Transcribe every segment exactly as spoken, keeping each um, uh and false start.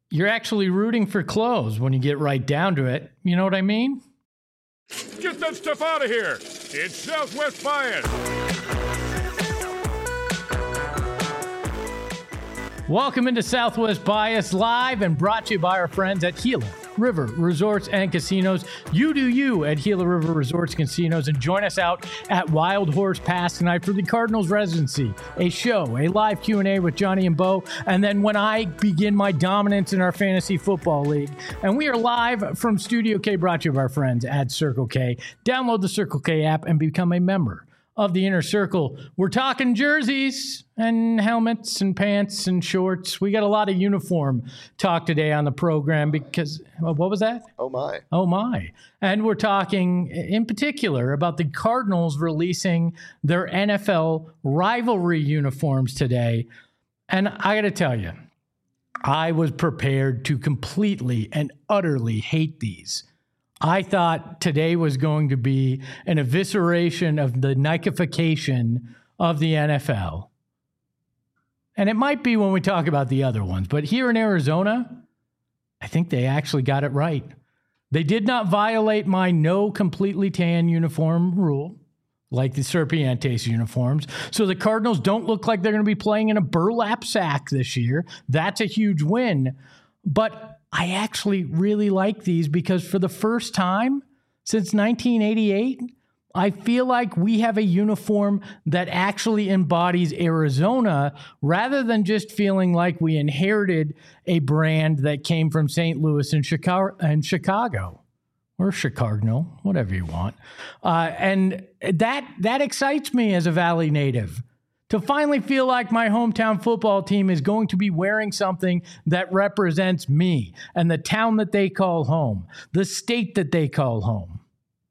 you're actually rooting for clothes when you get right down to it. You know what I mean? Get that stuff out of here. It's Southwest Bias. Welcome into Southwest Bias, live and brought to you by our friends at Gila River Resorts and Casinos. You do you at Gila River Resorts and Casinos, and join us out at Wild Horse Pass tonight for the Cardinals residency, a show, a live Q and A with Johnny and Bo, and then when I begin my dominance in our fantasy football league. And we are live from Studio K, brought to you by our friends at Circle K. Download the Circle K app and become a member of the Inner Circle. We're talking jerseys and helmets and pants and shorts. We got a lot of uniform talk today on the program because, well, what was that? Oh, my. Oh, my. And we're talking in particular about the Cardinals releasing their N F L rivalry uniforms today. And I got to tell you, I was prepared to completely and utterly hate these. I thought today was going to be an evisceration of the Nikeification of the N F L. And it might be when we talk about the other ones, but here in Arizona, I think they actually got it right. They did not violate my no completely tan uniform rule, like the Serpientes uniforms. So the Cardinals don't look like they're going to be playing in a burlap sack this year. That's a huge win. But I actually really like these because for the first time since nineteen eighty-eight, I feel like we have a uniform that actually embodies Arizona rather than just feeling like we inherited a brand that came from Saint Louis and Chicago, and Chicago or Chicago, whatever you want. Uh, and that that excites me as a Valley native, to finally feel like my hometown football team is going to be wearing something that represents me and the town that they call home, the state that they call home.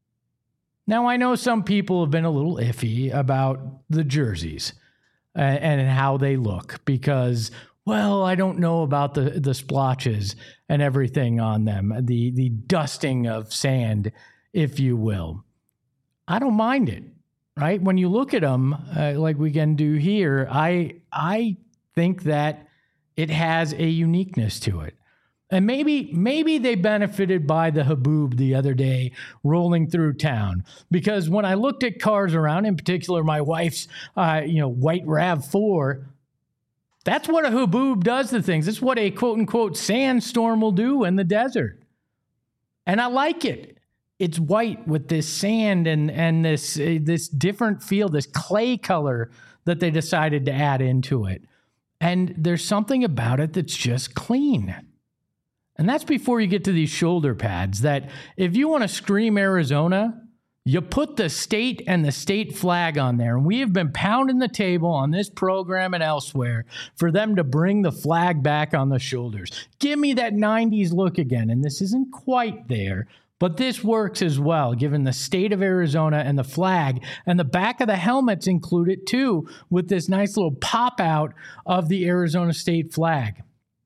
Now, I know some people have been a little iffy about the jerseys and, and how they look because, well, I don't know about the, the splotches and everything on them, the, the dusting of sand, if you will. I don't mind it. Right? When you look at them, uh, like we can do here, I I think that it has a uniqueness to it. And maybe maybe they benefited by the haboob the other day rolling through town. Because when I looked at cars around, in particular my wife's uh, you know, white RAV four, that's what a haboob does to things. It's what a quote-unquote sandstorm will do in the desert. And I like it. It's white with this sand and and this uh, this different feel, this clay color that they decided to add into it. And there's something about it that's just clean. And that's before you get to these shoulder pads that if you want to scream Arizona, you put the state and the state flag on there. And we have been pounding the table on this program and elsewhere for them to bring the flag back on the shoulders. Give me that nineties look again. And this isn't quite there, but this works as well, given the state of Arizona and the flag. And the back of the helmets include it too, with this nice little pop out of the Arizona state flag.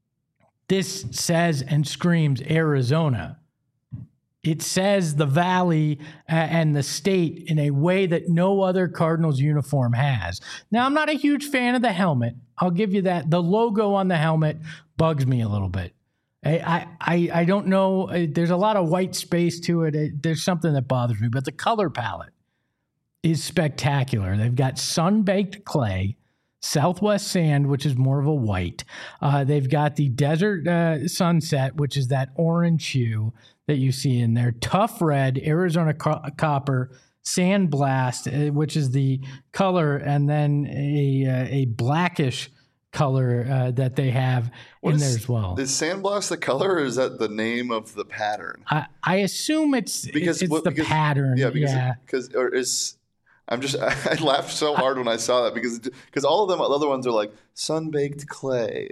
This says and screams Arizona. It says the Valley and the state in a way that no other Cardinals uniform has. Now, I'm not a huge fan of the helmet. I'll give you that. The logo on the helmet bugs me a little bit. I, I I don't know. There's a lot of white space to it. There's something that bothers me. But the color palette is spectacular. They've got sun-baked clay, Southwest sand, which is more of a white. Uh, they've got the desert uh, sunset, which is that orange hue that you see in there. Tough red, Arizona co- copper, sandblast, uh, which is the color, and then a uh, a blackish color uh, that they have what in is, there as well. Is sandblast the color, or is that the name of the pattern? I, I assume it's because it's what, the because, pattern. Yeah, because yeah. Because or is I'm just I laughed so hard I, when I saw that because because all of them the other ones are like sun-baked clay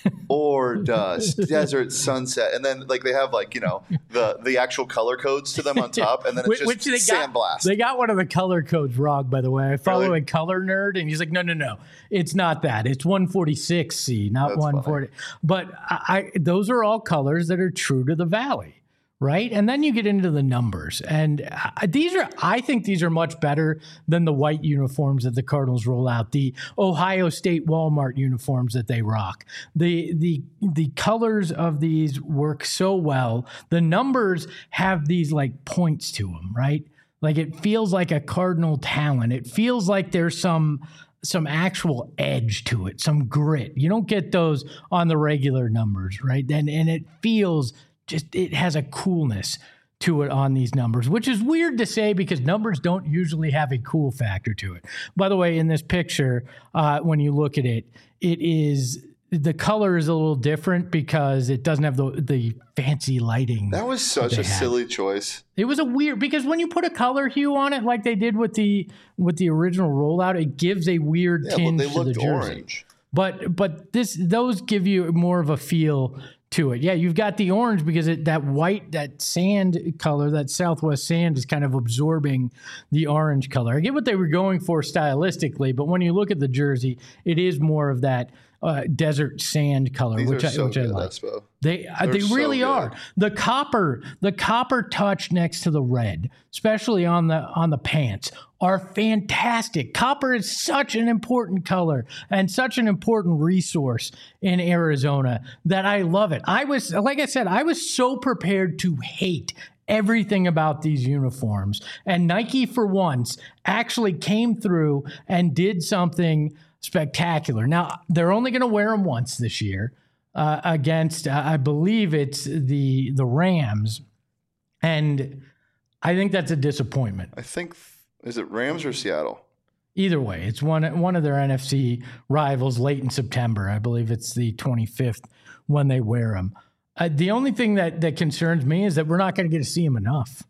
or dust, desert sunset, and then like they have like you know the the actual color codes to them on top, and then it's just which they sandblast. Got, they got one of the color codes wrong, by the way. I follow really? a color nerd, and he's like, no, no, no, it's not that. It's one forty-six C, not That's one forty. Funny. But I, I those are all colors that are true to the Valley. right? And then you get into the numbers. And uh, these are, I think these are much better than the white uniforms that the Cardinals roll out, the Ohio State Walmart uniforms that they rock. The, the, the colors of these work so well. The numbers have these like points to them, right? Like it feels like a Cardinal talent. It feels like there's some some actual edge to it, some grit. You don't get those on the regular numbers, right? And and it feels just, it has a coolness to it on these numbers, which is weird to say because numbers don't usually have a cool factor to it. By the way, in this picture, uh, when you look at it, it is, the color is a little different because it doesn't have the the fancy lighting. That was such a silly choice. It was a weird, because when you put a color hue on it like they did with the with the original rollout, it gives a weird Yeah, tinge but they to the looked jersey. orange. But but this those give you more of a feel to it. Yeah, you've got the orange because it, that white, that sand color, that Southwest sand is kind of absorbing the orange color. I get what they were going for stylistically, but when you look at the jersey, it is more of that uh, desert sand color, These which are I, so which good, I like. Espo. They uh, They're they so really good. are. The copper, the copper touch next to the red, especially on the on the pants, are fantastic. Copper is such an important color and such an important resource in Arizona that I love it. I was, like I said, I was so prepared to hate everything about these uniforms. And Nike, for once, actually came through and did something spectacular. Now, they're only going to wear them once this year uh, against, uh, I believe it's the the Rams. And I think that's a disappointment. I think, is it Rams or Seattle? Either way, it's one one of their N F C rivals late in September. I believe it's the twenty-fifth when they wear them. Uh, the only thing that, that concerns me is that we're not going to get to see them enough.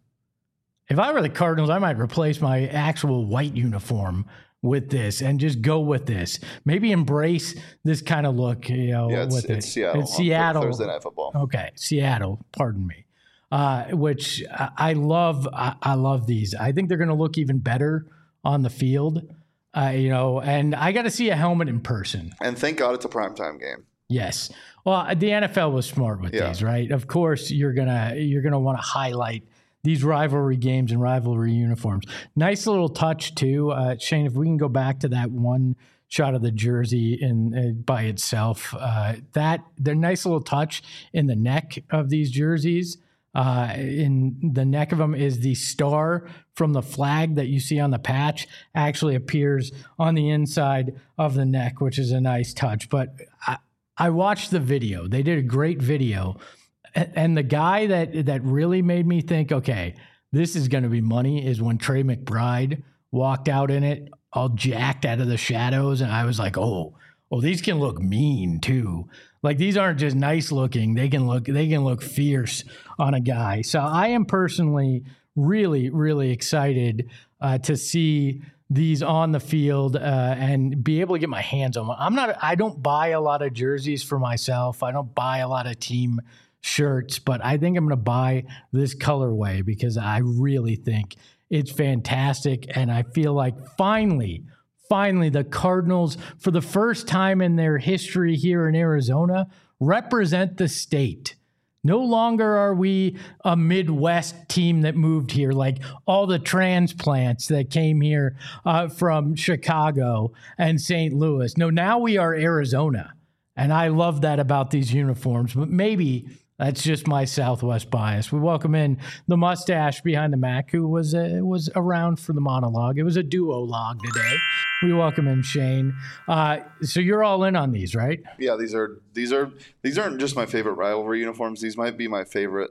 If I were the Cardinals, I might replace my actual white uniform with this and just go with this. Maybe embrace this kind of look, you know, Yeah, it's, with it's it. Seattle. It's on Seattle. Thursday Night Football. Okay, Seattle. Pardon me. Uh, which I, I love. I, I love these. I think they're going to look even better on the field. Uh, you know, and I got to see a helmet in person. And thank God it's a primetime game. Yes. Well, the N F L was smart with Yeah. these, right? Of course, you're gonna you're gonna want to highlight these rivalry games and rivalry uniforms. Nice little touch too, uh, Shane. If we can go back to that one shot of the jersey in uh, by itself, uh, that the nice little touch in the neck of these jerseys. Uh, in the neck of them is the star from the flag that you see on the patch actually appears on the inside of the neck, which is a nice touch. But I, I watched the video. They did a great video. And the guy that that really made me think, okay, this is going to be money is when Trey McBride walked out in it, all jacked out of the shadows. And I was like, oh, oh, these can look mean too. Like these aren't just nice looking. They can look, they can look fierce on a guy. So I am personally really, really excited uh, to see these on the field uh, and be able to get my hands on them. I'm not, I don't buy a lot of jerseys for myself. I don't buy a lot of team shirts, but I think I'm going to buy this colorway because I really think it's fantastic. And I feel like finally, finally, the Cardinals, for the first time in their history here in Arizona, represent the state. No longer are we a Midwest team that moved here, like all the transplants that came here uh, from Chicago and Saint Louis. No, now we are Arizona. And I love that about these uniforms, but maybe that's just my Southwest bias. We welcome in the mustache behind the Mac, who was uh, was around for the monologue. It was a duo log today. We welcome in Shane. Uh, so you're all in on these, right? Yeah, these are these are these aren't just my favorite rivalry uniforms. These might be my favorite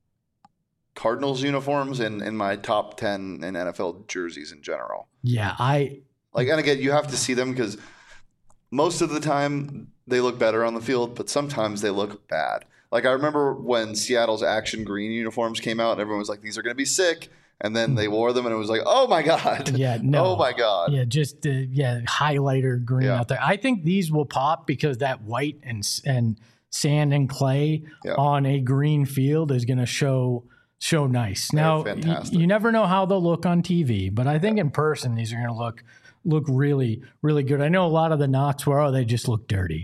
Cardinals uniforms and in, in my top ten in N F L jerseys in general. Yeah, I like, and again, you have to see them because most of the time they look better on the field, but sometimes they look bad. Like I remember when Seattle's action green uniforms came out, and everyone was like, "These are going to be sick," and then they wore them, and it was like, "Oh my god!" Yeah, no. Oh my god! Yeah, just uh, yeah, highlighter green Yeah. out there. I think these will pop because that white and and sand and clay Yeah. on a green field is going to show show nice. They're Now, y- fantastic. you never know how they'll look on T V, but I think in person these are going to look look really really good. I know a lot of the knocks were, oh, they just look dirty.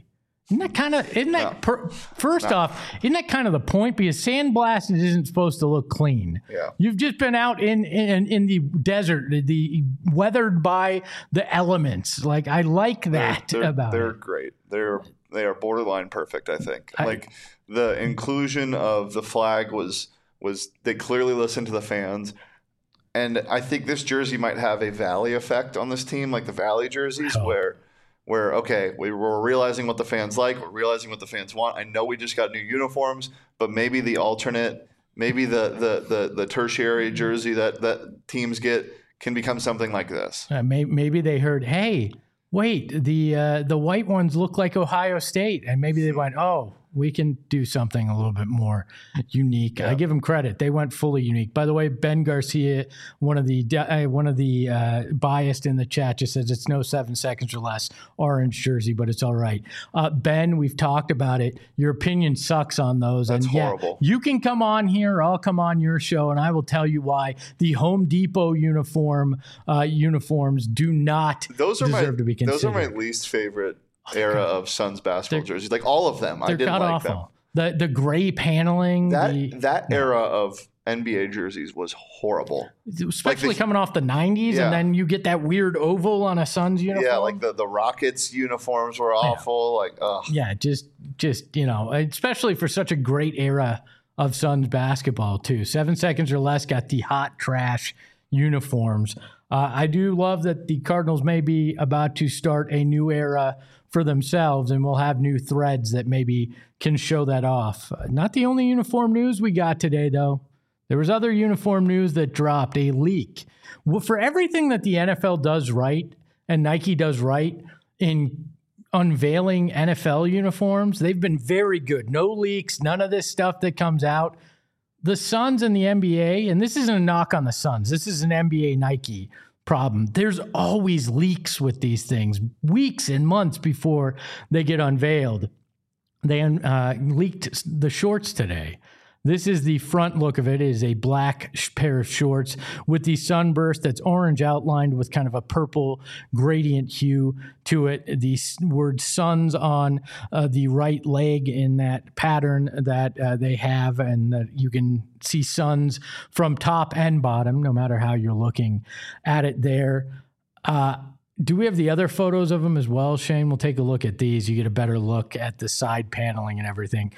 Isn't that kind of, isn't that, No. per, first No. off, isn't that kind of the point? Because sandblasted isn't supposed to look clean. Yeah. You've just been out in, in, in the desert, the, the weathered by the elements. Like, I like that they're, they're, about they're it. great. They're they are borderline perfect, I think. I- like the inclusion of the flag was was they clearly listened to the fans. And I think this jersey might have a Valley effect on this team, like the Valley jerseys, Wow. where where okay, we we're realizing what the fans like, we're realizing what the fans want. I know we just got new uniforms, but maybe the alternate, maybe the the the, the tertiary jersey that, that teams get can become something like this. Uh, may, maybe they heard, hey, wait, the uh, the white ones look like Ohio State. And maybe they went, oh, we can do something a little bit more unique. Yeah. I give them credit. They went fully unique. By the way, Ben Garcia, one of the uh, one of the uh, biased in the chat, just says it's no seven seconds or less orange jersey, but it's all right. Uh, Ben, we've talked about it. Your opinion sucks on those. That's and yeah, horrible. you can come on here. I'll come on your show, and I will tell you why the Home Depot uniform uh, uniforms do not Those are deserve my to be considered. those are my least favorite era of Suns basketball jerseys. Like all of them, I They're didn't god like awful. The the gray paneling, them. That the, that era of N B A jerseys was horrible. especially the- coming off the nineties, Yeah. and then you get that weird oval on a Suns uniform. Yeah, like the, the Rockets uniforms were awful. Like, ugh. yeah, just just you know, especially for such a great era of Suns basketball too. Seven seconds or less got the hot trash uniforms. Uh, I do love that the Cardinals may be about to start a new era for themselves, and we'll have new threads that maybe can show that off. Uh, not the only uniform news we got today, though. There was other uniform news that dropped, a leak. Well, for everything that the N F L does right and Nike does right in unveiling N F L uniforms, they've been very good. No leaks, none of this stuff that comes out. The Suns and the N B A, and this isn't a knock on the Suns, this is an N B A Nike problem. There's always leaks with these things, weeks and months before they get unveiled. They uh, leaked the shorts today. This is the front look of it. It is a black sh- pair of shorts with the sunburst that's orange outlined with kind of a purple gradient hue to it. The s- word Suns on uh, the right leg in that pattern that uh, they have, and that you can see Suns from top and bottom, no matter how you're looking at it there. Uh, do we have the other photos of them as well, Shane? We'll take a look at these. You get a better look at the side paneling and everything.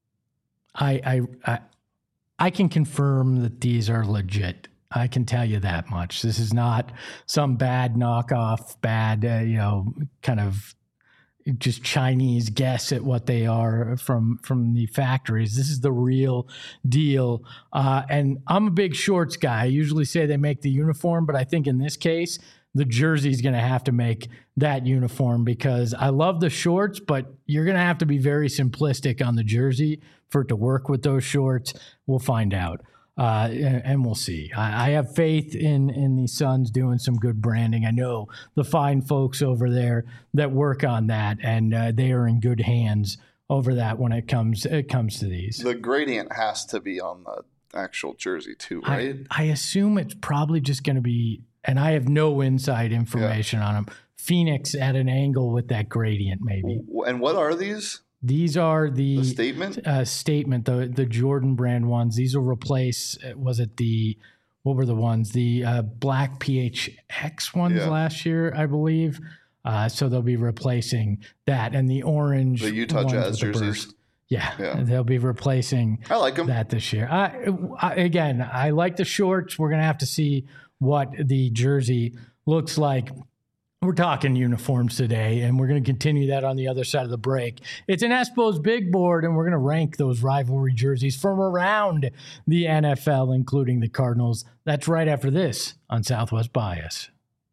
I, I I I can confirm that these are legit. I can tell you that much. This is not some bad knockoff, bad uh, you know, kind of just Chinese guess at what they are from from the factories. This is the real deal. Uh, and I'm a big shorts guy. I usually say they make the uniform, but I think in this case, the jersey is going to have to make that uniform, because I love the shorts, but you're going to have to be very simplistic on the jersey for it to work with those shorts. We'll find out. Uh, and, and we'll see. I, I have faith in in the Suns doing some good branding. I know the fine folks over there that work on that, and uh, they are in good hands over that when it comes it comes to these. The gradient has to be on the actual jersey too, right? I, I assume it's probably just going to be, and I have no inside information on them, Phoenix at an angle with that gradient maybe. W- And what are these? These are the, The statement? uh, statement, the the Jordan brand ones. These will replace, uh, was it the, what were the ones? The uh, black P H X ones Yeah. last year, I believe. Uh, so they'll be replacing that, and the orange. The Utah ones Jazz with the jerseys. burst. Yeah, Yeah. they'll be replacing I like them. that this year. I, I, again, I like the shorts. We're going to have to see what the jersey looks like. We're talking uniforms today, and we're going to continue that on the other side of the break. It's an Espo's Big Board, and we're going to rank those rivalry jerseys from around the N F L, including the Cardinals. That's right after this on Southwest Bias.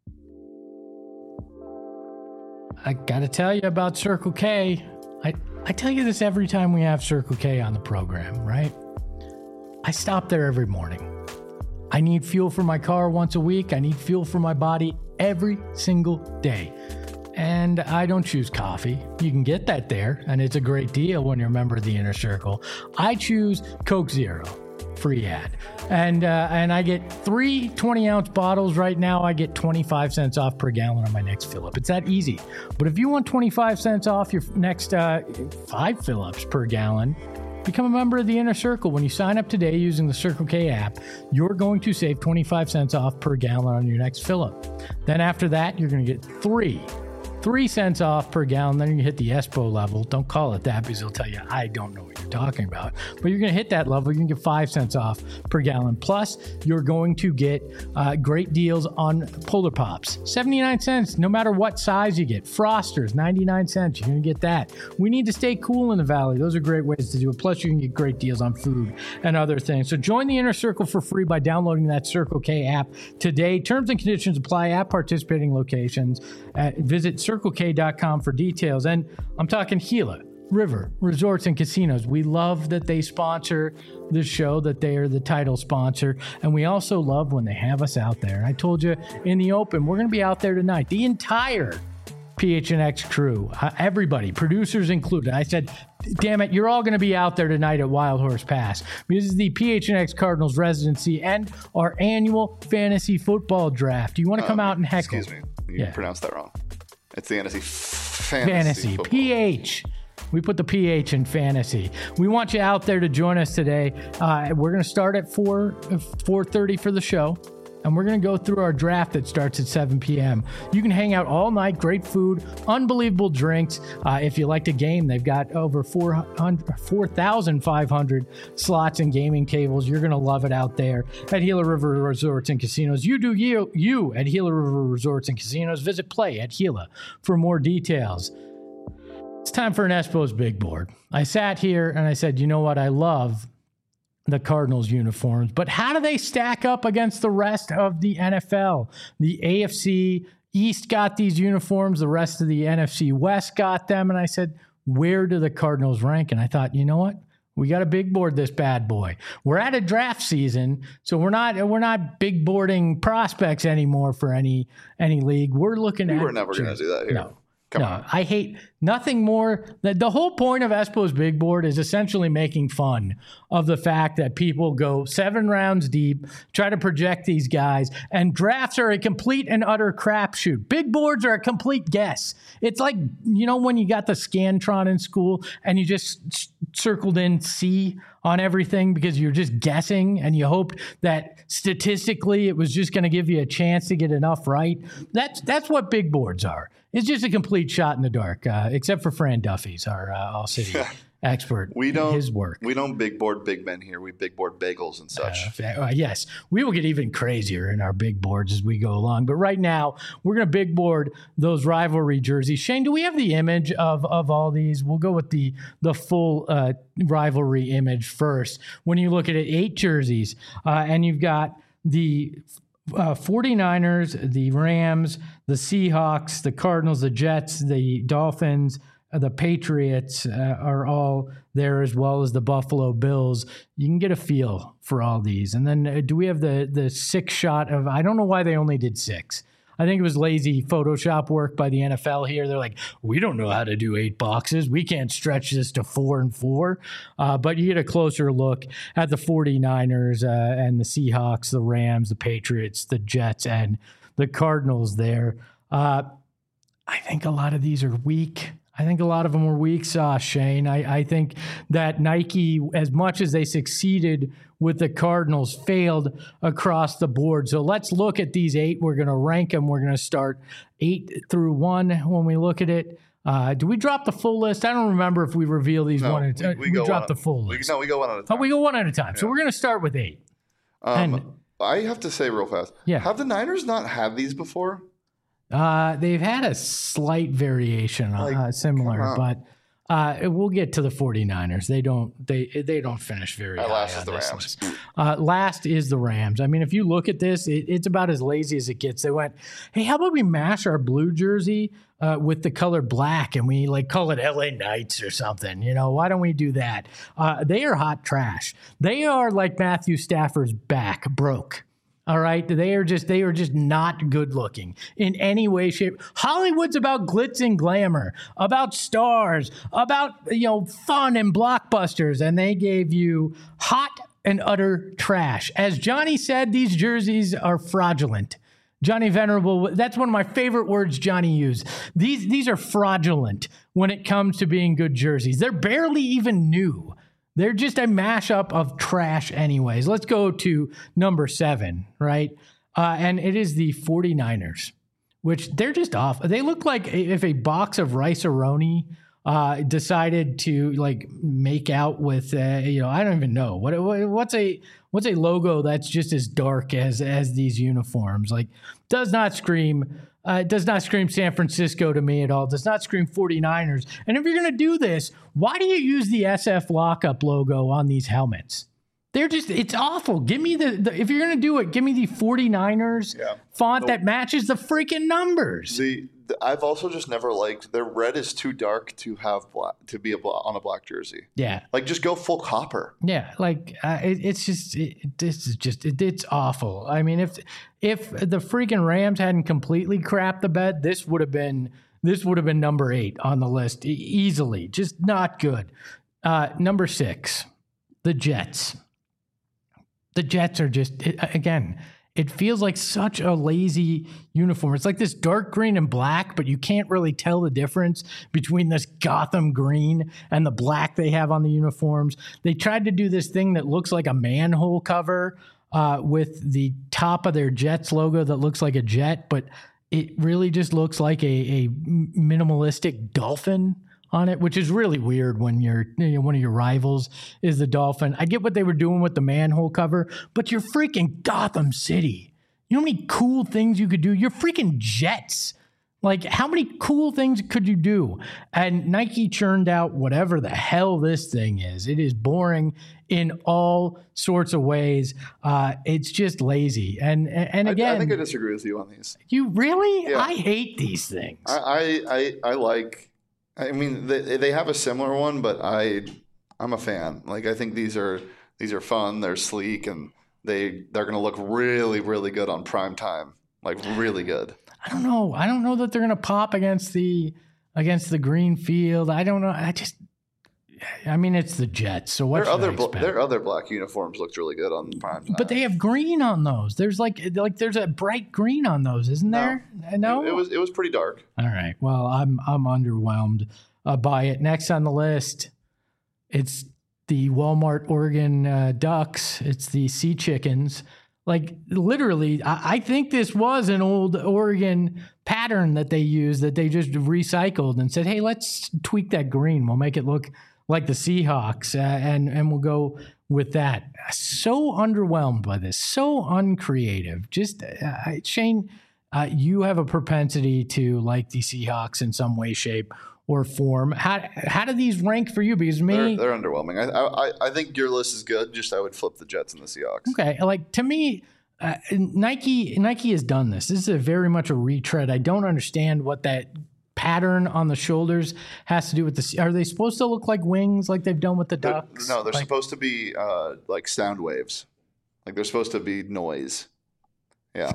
I got to tell you about Circle K. I, I tell you this every time we have Circle K on the program, right? I stop there every morning. I need fuel for my car once a week. I need fuel for my body every single day. And I don't choose coffee. You can get that there, and it's a great deal when you're a member of the Inner Circle. I choose Coke Zero. free ad. And uh, and I get three twenty-ounce bottles right now. I get twenty-five cents off per gallon on my next fill-up. It's that easy. But if you want twenty-five cents off your next uh, five fill-ups per gallon, become a member of the Inner Circle. When you sign up today using the Circle K app, you're going to save twenty-five cents off per gallon on your next fill-up. Then after that, you're going to get three. Three cents off per gallon, then you hit the ESPO level. Don't call it that because they'll tell you, I don't know what you're talking about. But you're going to hit that level. You're going to get five cents off per gallon. Plus, you're going to get uh, great deals on Polar Pops. seventy-nine cents, no matter what size you get. Frosters, ninety-nine cents. You're going to get that. We need to stay cool in the Valley. Those are great ways to do it. Plus, you can get great deals on food and other things. So join the Inner Circle for free by downloading that Circle K app today. Terms and conditions apply at participating locations. Uh, visit Circle K dot com for details. And I'm talking Gila River Resorts and Casinos. We love that they sponsor this show, that they are the title sponsor. And we also love when they have us out there. I told you in the open, we're going to be out there tonight. The entire P H N X crew, uh, everybody, producers included. I said, damn it, you're all going to be out there tonight at Wild Horse Pass. This is the P H N X Cardinals residency and our annual fantasy football draft. Do you want to come um, out and heckle? Excuse me. You yeah. pronounced that wrong. It's the N F C Fantasy, fantasy P H. We put the P H in fantasy. We want you out there to join us today. Uh, we're going to start at four thirty for the show, and we're going to go through our draft that starts at seven p.m. You can hang out all night, great food, unbelievable drinks. Uh, if you like to game, they've got over four thousand five hundred slots and gaming tables. You're going to love it out there at Gila River Resorts and Casinos. You do you, you at Gila River Resorts and Casinos. Visit Play at Gila for more details. It's time for an Espo's Big Board. I sat here and I said, you know what? I love the Cardinals uniforms, but how do they stack up against the rest of the N F L? The A F C East got these uniforms. The rest of the N F C West got them. And I said, where do the Cardinals rank? And I thought, you know what? We got to big board this bad boy. We're at a draft season, so we're not we're not big boarding prospects anymore for any any league. We're looking we at. We're never going to do that here. No. Come no, on. I hate nothing more. The, the whole point of Espo's Big Board is essentially making fun of the fact that people go seven rounds deep, try to project these guys, and drafts are a complete and utter crapshoot. Big boards are a complete guess. It's like, you know, when you got the Scantron in school and you just circled in C on everything because you're just guessing and you hoped that statistically it was just going to give you a chance to get enough right. That's that's what big boards are. It's just a complete shot in the dark, uh, except for Fran Duffy's, our uh, all-city expert. We don't his work. We don't big board big men here. We big board bagels and such. Uh, uh, yes, we will get even crazier in our big boards as we go along. But right now, we're going to big board those rivalry jerseys. Shane, do we have the image of of all these? We'll go with the the full uh, rivalry image first. When you look at it, eight jerseys, uh, and you've got the Uh, 49ers, the Rams, the Seahawks, the Cardinals, the Jets, the Dolphins, uh, the Patriots uh, are all there, as well as the Buffalo Bills. You can get a feel for all these. And then uh, do we have the the six shot of, I don't know why they only did six. I think it was lazy Photoshop work by the N F L here. They're like, we don't know how to do eight boxes. We can't stretch this to four and four. Uh, but you get a closer look at the 49ers uh, and the Seahawks, the Rams, the Patriots, the Jets, and the Cardinals there. Uh, I think a lot of these are weak. I think a lot of them were weak sauce, Shane. I, I think that Nike, as much as they succeeded with the Cardinals, failed across the board. So let's look at these eight. We're going to rank them. We're going to start eight through one when we look at it. Uh, do we drop the full list? I don't remember if we reveal these no, one at a time. We, we, we drop the full we, list. No, we go one at a time. Oh, we go one at a time. Yeah. So we're going to start with eight. Um, and, I have to say real fast, yeah. have the Niners not had these before? Uh, they've had a slight variation, like, uh, similar, but uh, we'll get to the 49ers. They don't they they don't finish very uh, high last on is the this Rams. list. Uh, last is the Rams. I mean, if you look at this, it, it's about as lazy as it gets. They went, hey, how about we mash our blue jersey uh, with the color black and we like call it L A Knights or something? You know, why don't we do that? Uh, they are hot trash. They are like Matthew Stafford's back, broke. All right. They are just they are just not good looking in any way, shape. Hollywood's about glitz and glamour, about stars, about, you know, fun and blockbusters. And they gave you hot and utter trash. As Johnny said, these jerseys are fraudulent. Johnny Venerable, that's one of my favorite words Johnny used. These these are fraudulent when it comes to being good jerseys. They're barely even new. They're just a mashup of trash anyways. Let's go to number seven, right? Uh, and it is the 49ers, which they're just off. They look like if a box of Rice-A-Roni uh, decided to like make out with, uh, you know, I don't even know. What, what what's a what's a logo that's just as dark as as these uniforms? Like, does not scream Uh, it does not scream San Francisco to me at all. It does not scream 49ers. And if you're going to do this, why do you use the S F lockup logo on these helmets? They're just, it's awful. Give me the, the if you're going to do it, give me the 49ers yeah. font no. that matches the freaking numbers. The, the I've also just never liked, their red is too dark to have black, to be a bla- on a black jersey. Yeah. Like, just go full copper. Yeah, like uh, it, it's just it, this is just it, it's awful. I mean, if if the freaking Rams hadn't completely crapped the bed, this would have been this would have been number eight on the list e- easily. Just not good. Uh, number six, the Jets. The Jets are just it, again. It feels like such a lazy uniform. It's like this dark green and black, but you can't really tell the difference between this Gotham green and the black they have on the uniforms. They tried to do this thing that looks like a manhole cover uh, with the top of their Jets logo that looks like a jet, but it really just looks like a, a minimalistic dolphin on it, which is really weird when you're, you know, one of your rivals is the Dolphin. I get what they were doing with the manhole cover, but you're freaking Gotham City. You know how many cool things you could do? You're freaking Jets. Like, how many cool things could you do? And Nike churned out whatever the hell this thing is. It is boring in all sorts of ways. Uh, it's just lazy. And and again, I, I think I disagree with you on these. You really? Yeah. I hate these things. I I, I, I like. I mean, they they have a similar one, but I I'm a fan. Like, I think these are these are fun. They're sleek, and they they're gonna look really really good on prime time. Like, really good. I don't know. I don't know that they're gonna pop against the against the green field. I don't know. I just. I mean, it's the Jets. So what? Their other bl- their other black uniforms looked really good on prime time. But they have green on those. There's like like there's a bright green on those, isn't there? No, no? It, it was it was pretty dark. All right. Well, I'm I'm underwhelmed uh, by it. Next on the list, it's the Walmart Oregon uh, Ducks. It's the Sea Chickens. Like, literally, I, I think this was an old Oregon pattern that they used that they just recycled and said, hey, let's tweak that green. We'll make it look like the Seahawks, uh, and and we'll go with that. So underwhelmed by this, so uncreative. Just uh, Shane, uh, you have a propensity to like the Seahawks in some way, shape, or form. How how do these rank for you? Because me, they're, they're underwhelming. I, I I think your list is good. Just I would flip the Jets and the Seahawks. Okay, like to me, uh, Nike Nike has done this. This is a very much a retread. I don't understand what that pattern on the shoulders has to do with the. Are they supposed to look like wings, like they've done with the Ducks? They're, no, they're like, supposed to be uh, like sound waves. Like, they're supposed to be noise. Yeah.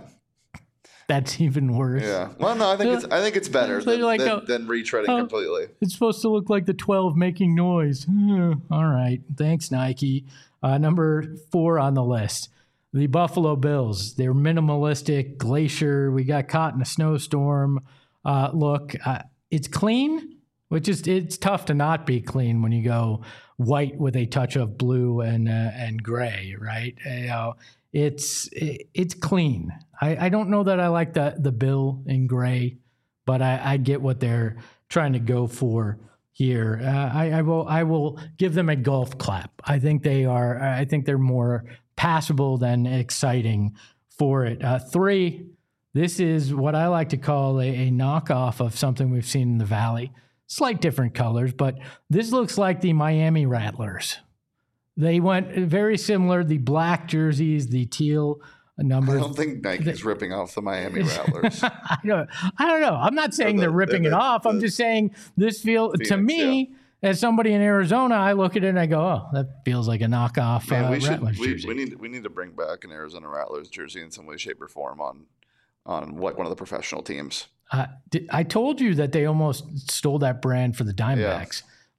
That's even worse. Yeah. Well, no, I think it's I think it's better They're than, like than, a- than retreading uh, completely. It's supposed to look like the twelve making noise. Hmm, all right. Thanks, Nike. Uh, number four on the list, the Buffalo Bills. They're minimalistic, glacier. We got caught in a snowstorm. Uh, look, uh, it's clean, which is it's tough to not be clean when you go white with a touch of blue and uh, and gray, right? You know, it's it, it's clean. I, I don't know that I like the the bill in gray, but I, I get what they're trying to go for here. Uh, I, I will I will give them a golf clap. I think they are. I think they're more passable than exciting for it. Uh, three. This is what I like to call a, a knockoff of something we've seen in the Valley. Slight different colors, but this looks like the Miami Rattlers. They went very similar, the black jerseys, the teal numbers. I don't think Nike's ripping off the Miami Rattlers. I, don't, I don't know. I'm not saying the, they're ripping the, it off. the, I'm just saying this feels, to Phoenix, me, yeah. as somebody in Arizona, I look at it and I go, oh, that feels like a knockoff Man, uh, we should Rattlers we, jersey. we need we need to bring back an Arizona Rattlers jersey in some way, shape, or form on on like one of the professional teams. Uh, did, I told you that they almost stole that brand for the Diamondbacks. Yeah.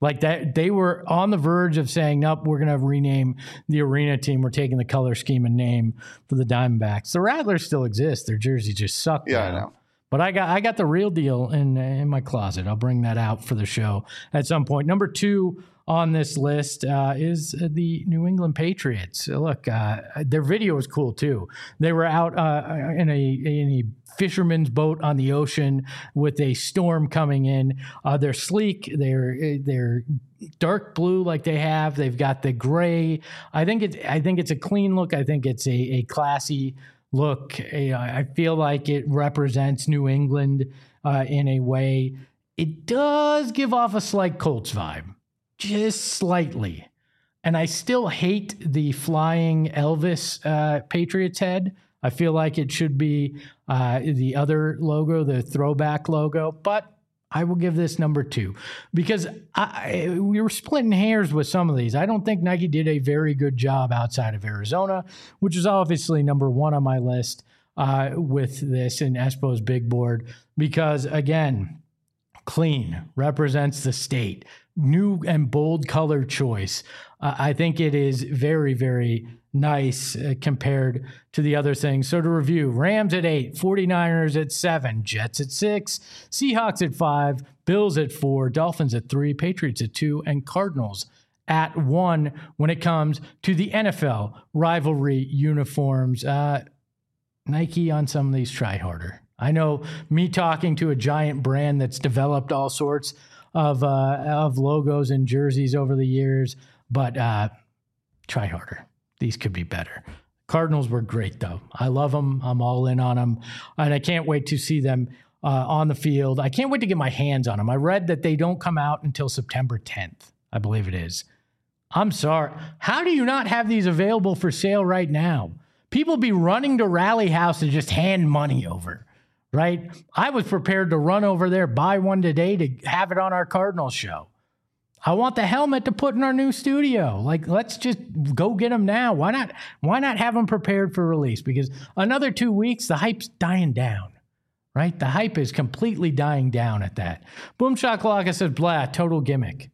Like that, they were on the verge of saying, nope, we're going to rename the arena team. We're taking the color scheme and name for the Diamondbacks. The Rattlers still exist. Their jerseys just suck. Yeah, now. I know. But I got I got the real deal in in my closet. I'll bring that out for the show at some point. Number two on this list uh, is the New England Patriots. Look, uh, their video was cool too. They were out uh, in a in a fisherman's boat on the ocean with a storm coming in. Uh, they're sleek. They're they're dark blue like they have. They've got the gray. I think it's I think it's a clean look. I think it's a a classy look. A, I feel like it represents New England uh, in a way. It does give off a slight Colts vibe, just slightly. And I still hate the flying Elvis uh, Patriots head. I feel like it should be uh, the other logo, the throwback logo, but I will give this number two because I, we were splitting hairs with some of these. I don't think Nike did a very good job outside of Arizona, which is obviously number one on my list uh, with this in Espo's big board because, again, clean represents the state. New and bold color choice. Uh, I think it is very, very nice uh, compared to the other things. So to review, Rams at eight, 49ers at seven, Jets at six, Seahawks at five, Bills at four, Dolphins at three, Patriots at two, and Cardinals at one when it comes to the N F L rivalry uniforms. Uh, Nike on some of these try harder. I know me talking to a giant brand that's developed all sorts of uh, of logos and jerseys over the years, but uh, try harder. These could be better. Cardinals were great, though. I love them. I'm all in on them, and I can't wait to see them uh, on the field. I can't wait to get my hands on them. I read that they don't come out until September tenth, I believe it is. I'm sorry. How do you not have these available for sale right now? People be running to Rally House to just hand money over. Right? I was prepared to run over there, buy one today to have it on our Cardinals show. I want the helmet to put in our new studio. Like, let's just go get them now. Why not? Why not have them prepared for release? Because another two weeks, the hype's dying down, right? The hype is completely dying down at that. Boom Shakalaka says, blah, total gimmick.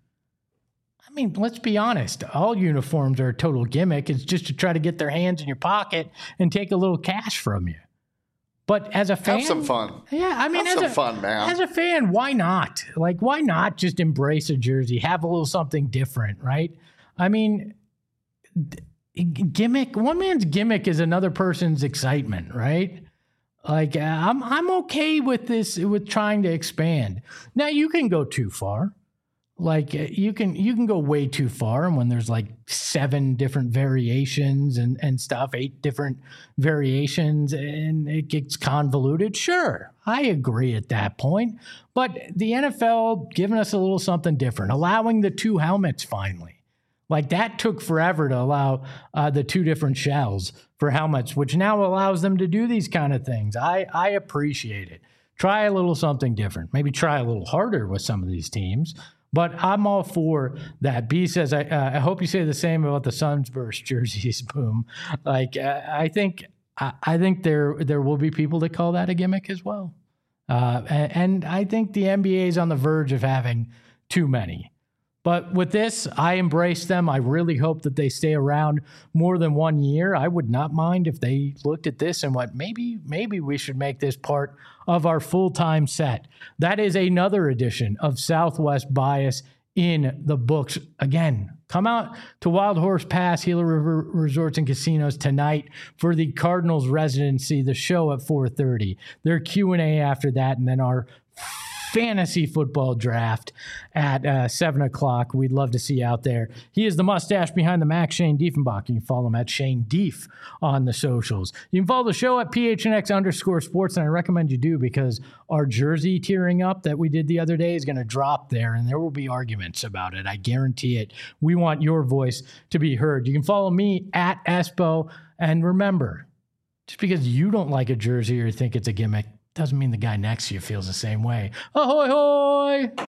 I mean, let's be honest. All uniforms are a total gimmick. It's just to try to get their hands in your pocket and take a little cash from you. But as a fan, have some fun. Yeah, I mean, have as some a, fun, man. As a fan, why not? Like, why not just embrace a jersey, have a little something different, right? I mean, gimmick. One man's gimmick is another person's excitement, right? Like, I'm I'm okay with this, with trying to expand. Now, you can go too far. Like you can you can go way too far, and when there's like seven different variations and, and stuff, eight different variations, and it gets convoluted, sure, I agree at that point. But the N F L giving us a little something different, allowing the two helmets finally. Like that took forever to allow uh, the two different shells for helmets, which now allows them to do these kind of things. I, I appreciate it. Try a little something different. Maybe try a little harder with some of these teams. But I'm all for that. B says, I, uh, I hope you say the same about the Sunburst jerseys. Boom. Like, uh, I think I, I think there there will be people that call that a gimmick as well. Uh, and, and I think the N B A is on the verge of having too many. But with this, I embrace them. I really hope that they stay around more than one year. I would not mind if they looked at this and went, maybe, maybe we should make this part of our full-time set. That is another edition of Southwest Bias in the books. Again, come out to Wild Horse Pass, Gila River Resorts and Casinos tonight for the Cardinals residency, the show at four thirty. Their Q and A after that, and then our fantasy football draft at uh, seven o'clock. We'd love to see you out there. He is the mustache behind the Mac, Shane Diefenbach. You can follow him at Shane Dief on the socials. You can follow the show at P H N X underscore sports, and I recommend you do because our jersey tearing up that we did the other day is going to drop there, and there will be arguments about it. I guarantee it. We want your voice to be heard. You can follow me at Espo, and remember, just because you don't like a jersey or think it's a gimmick doesn't mean the guy next to you feels the same way. Ahoy, hoy!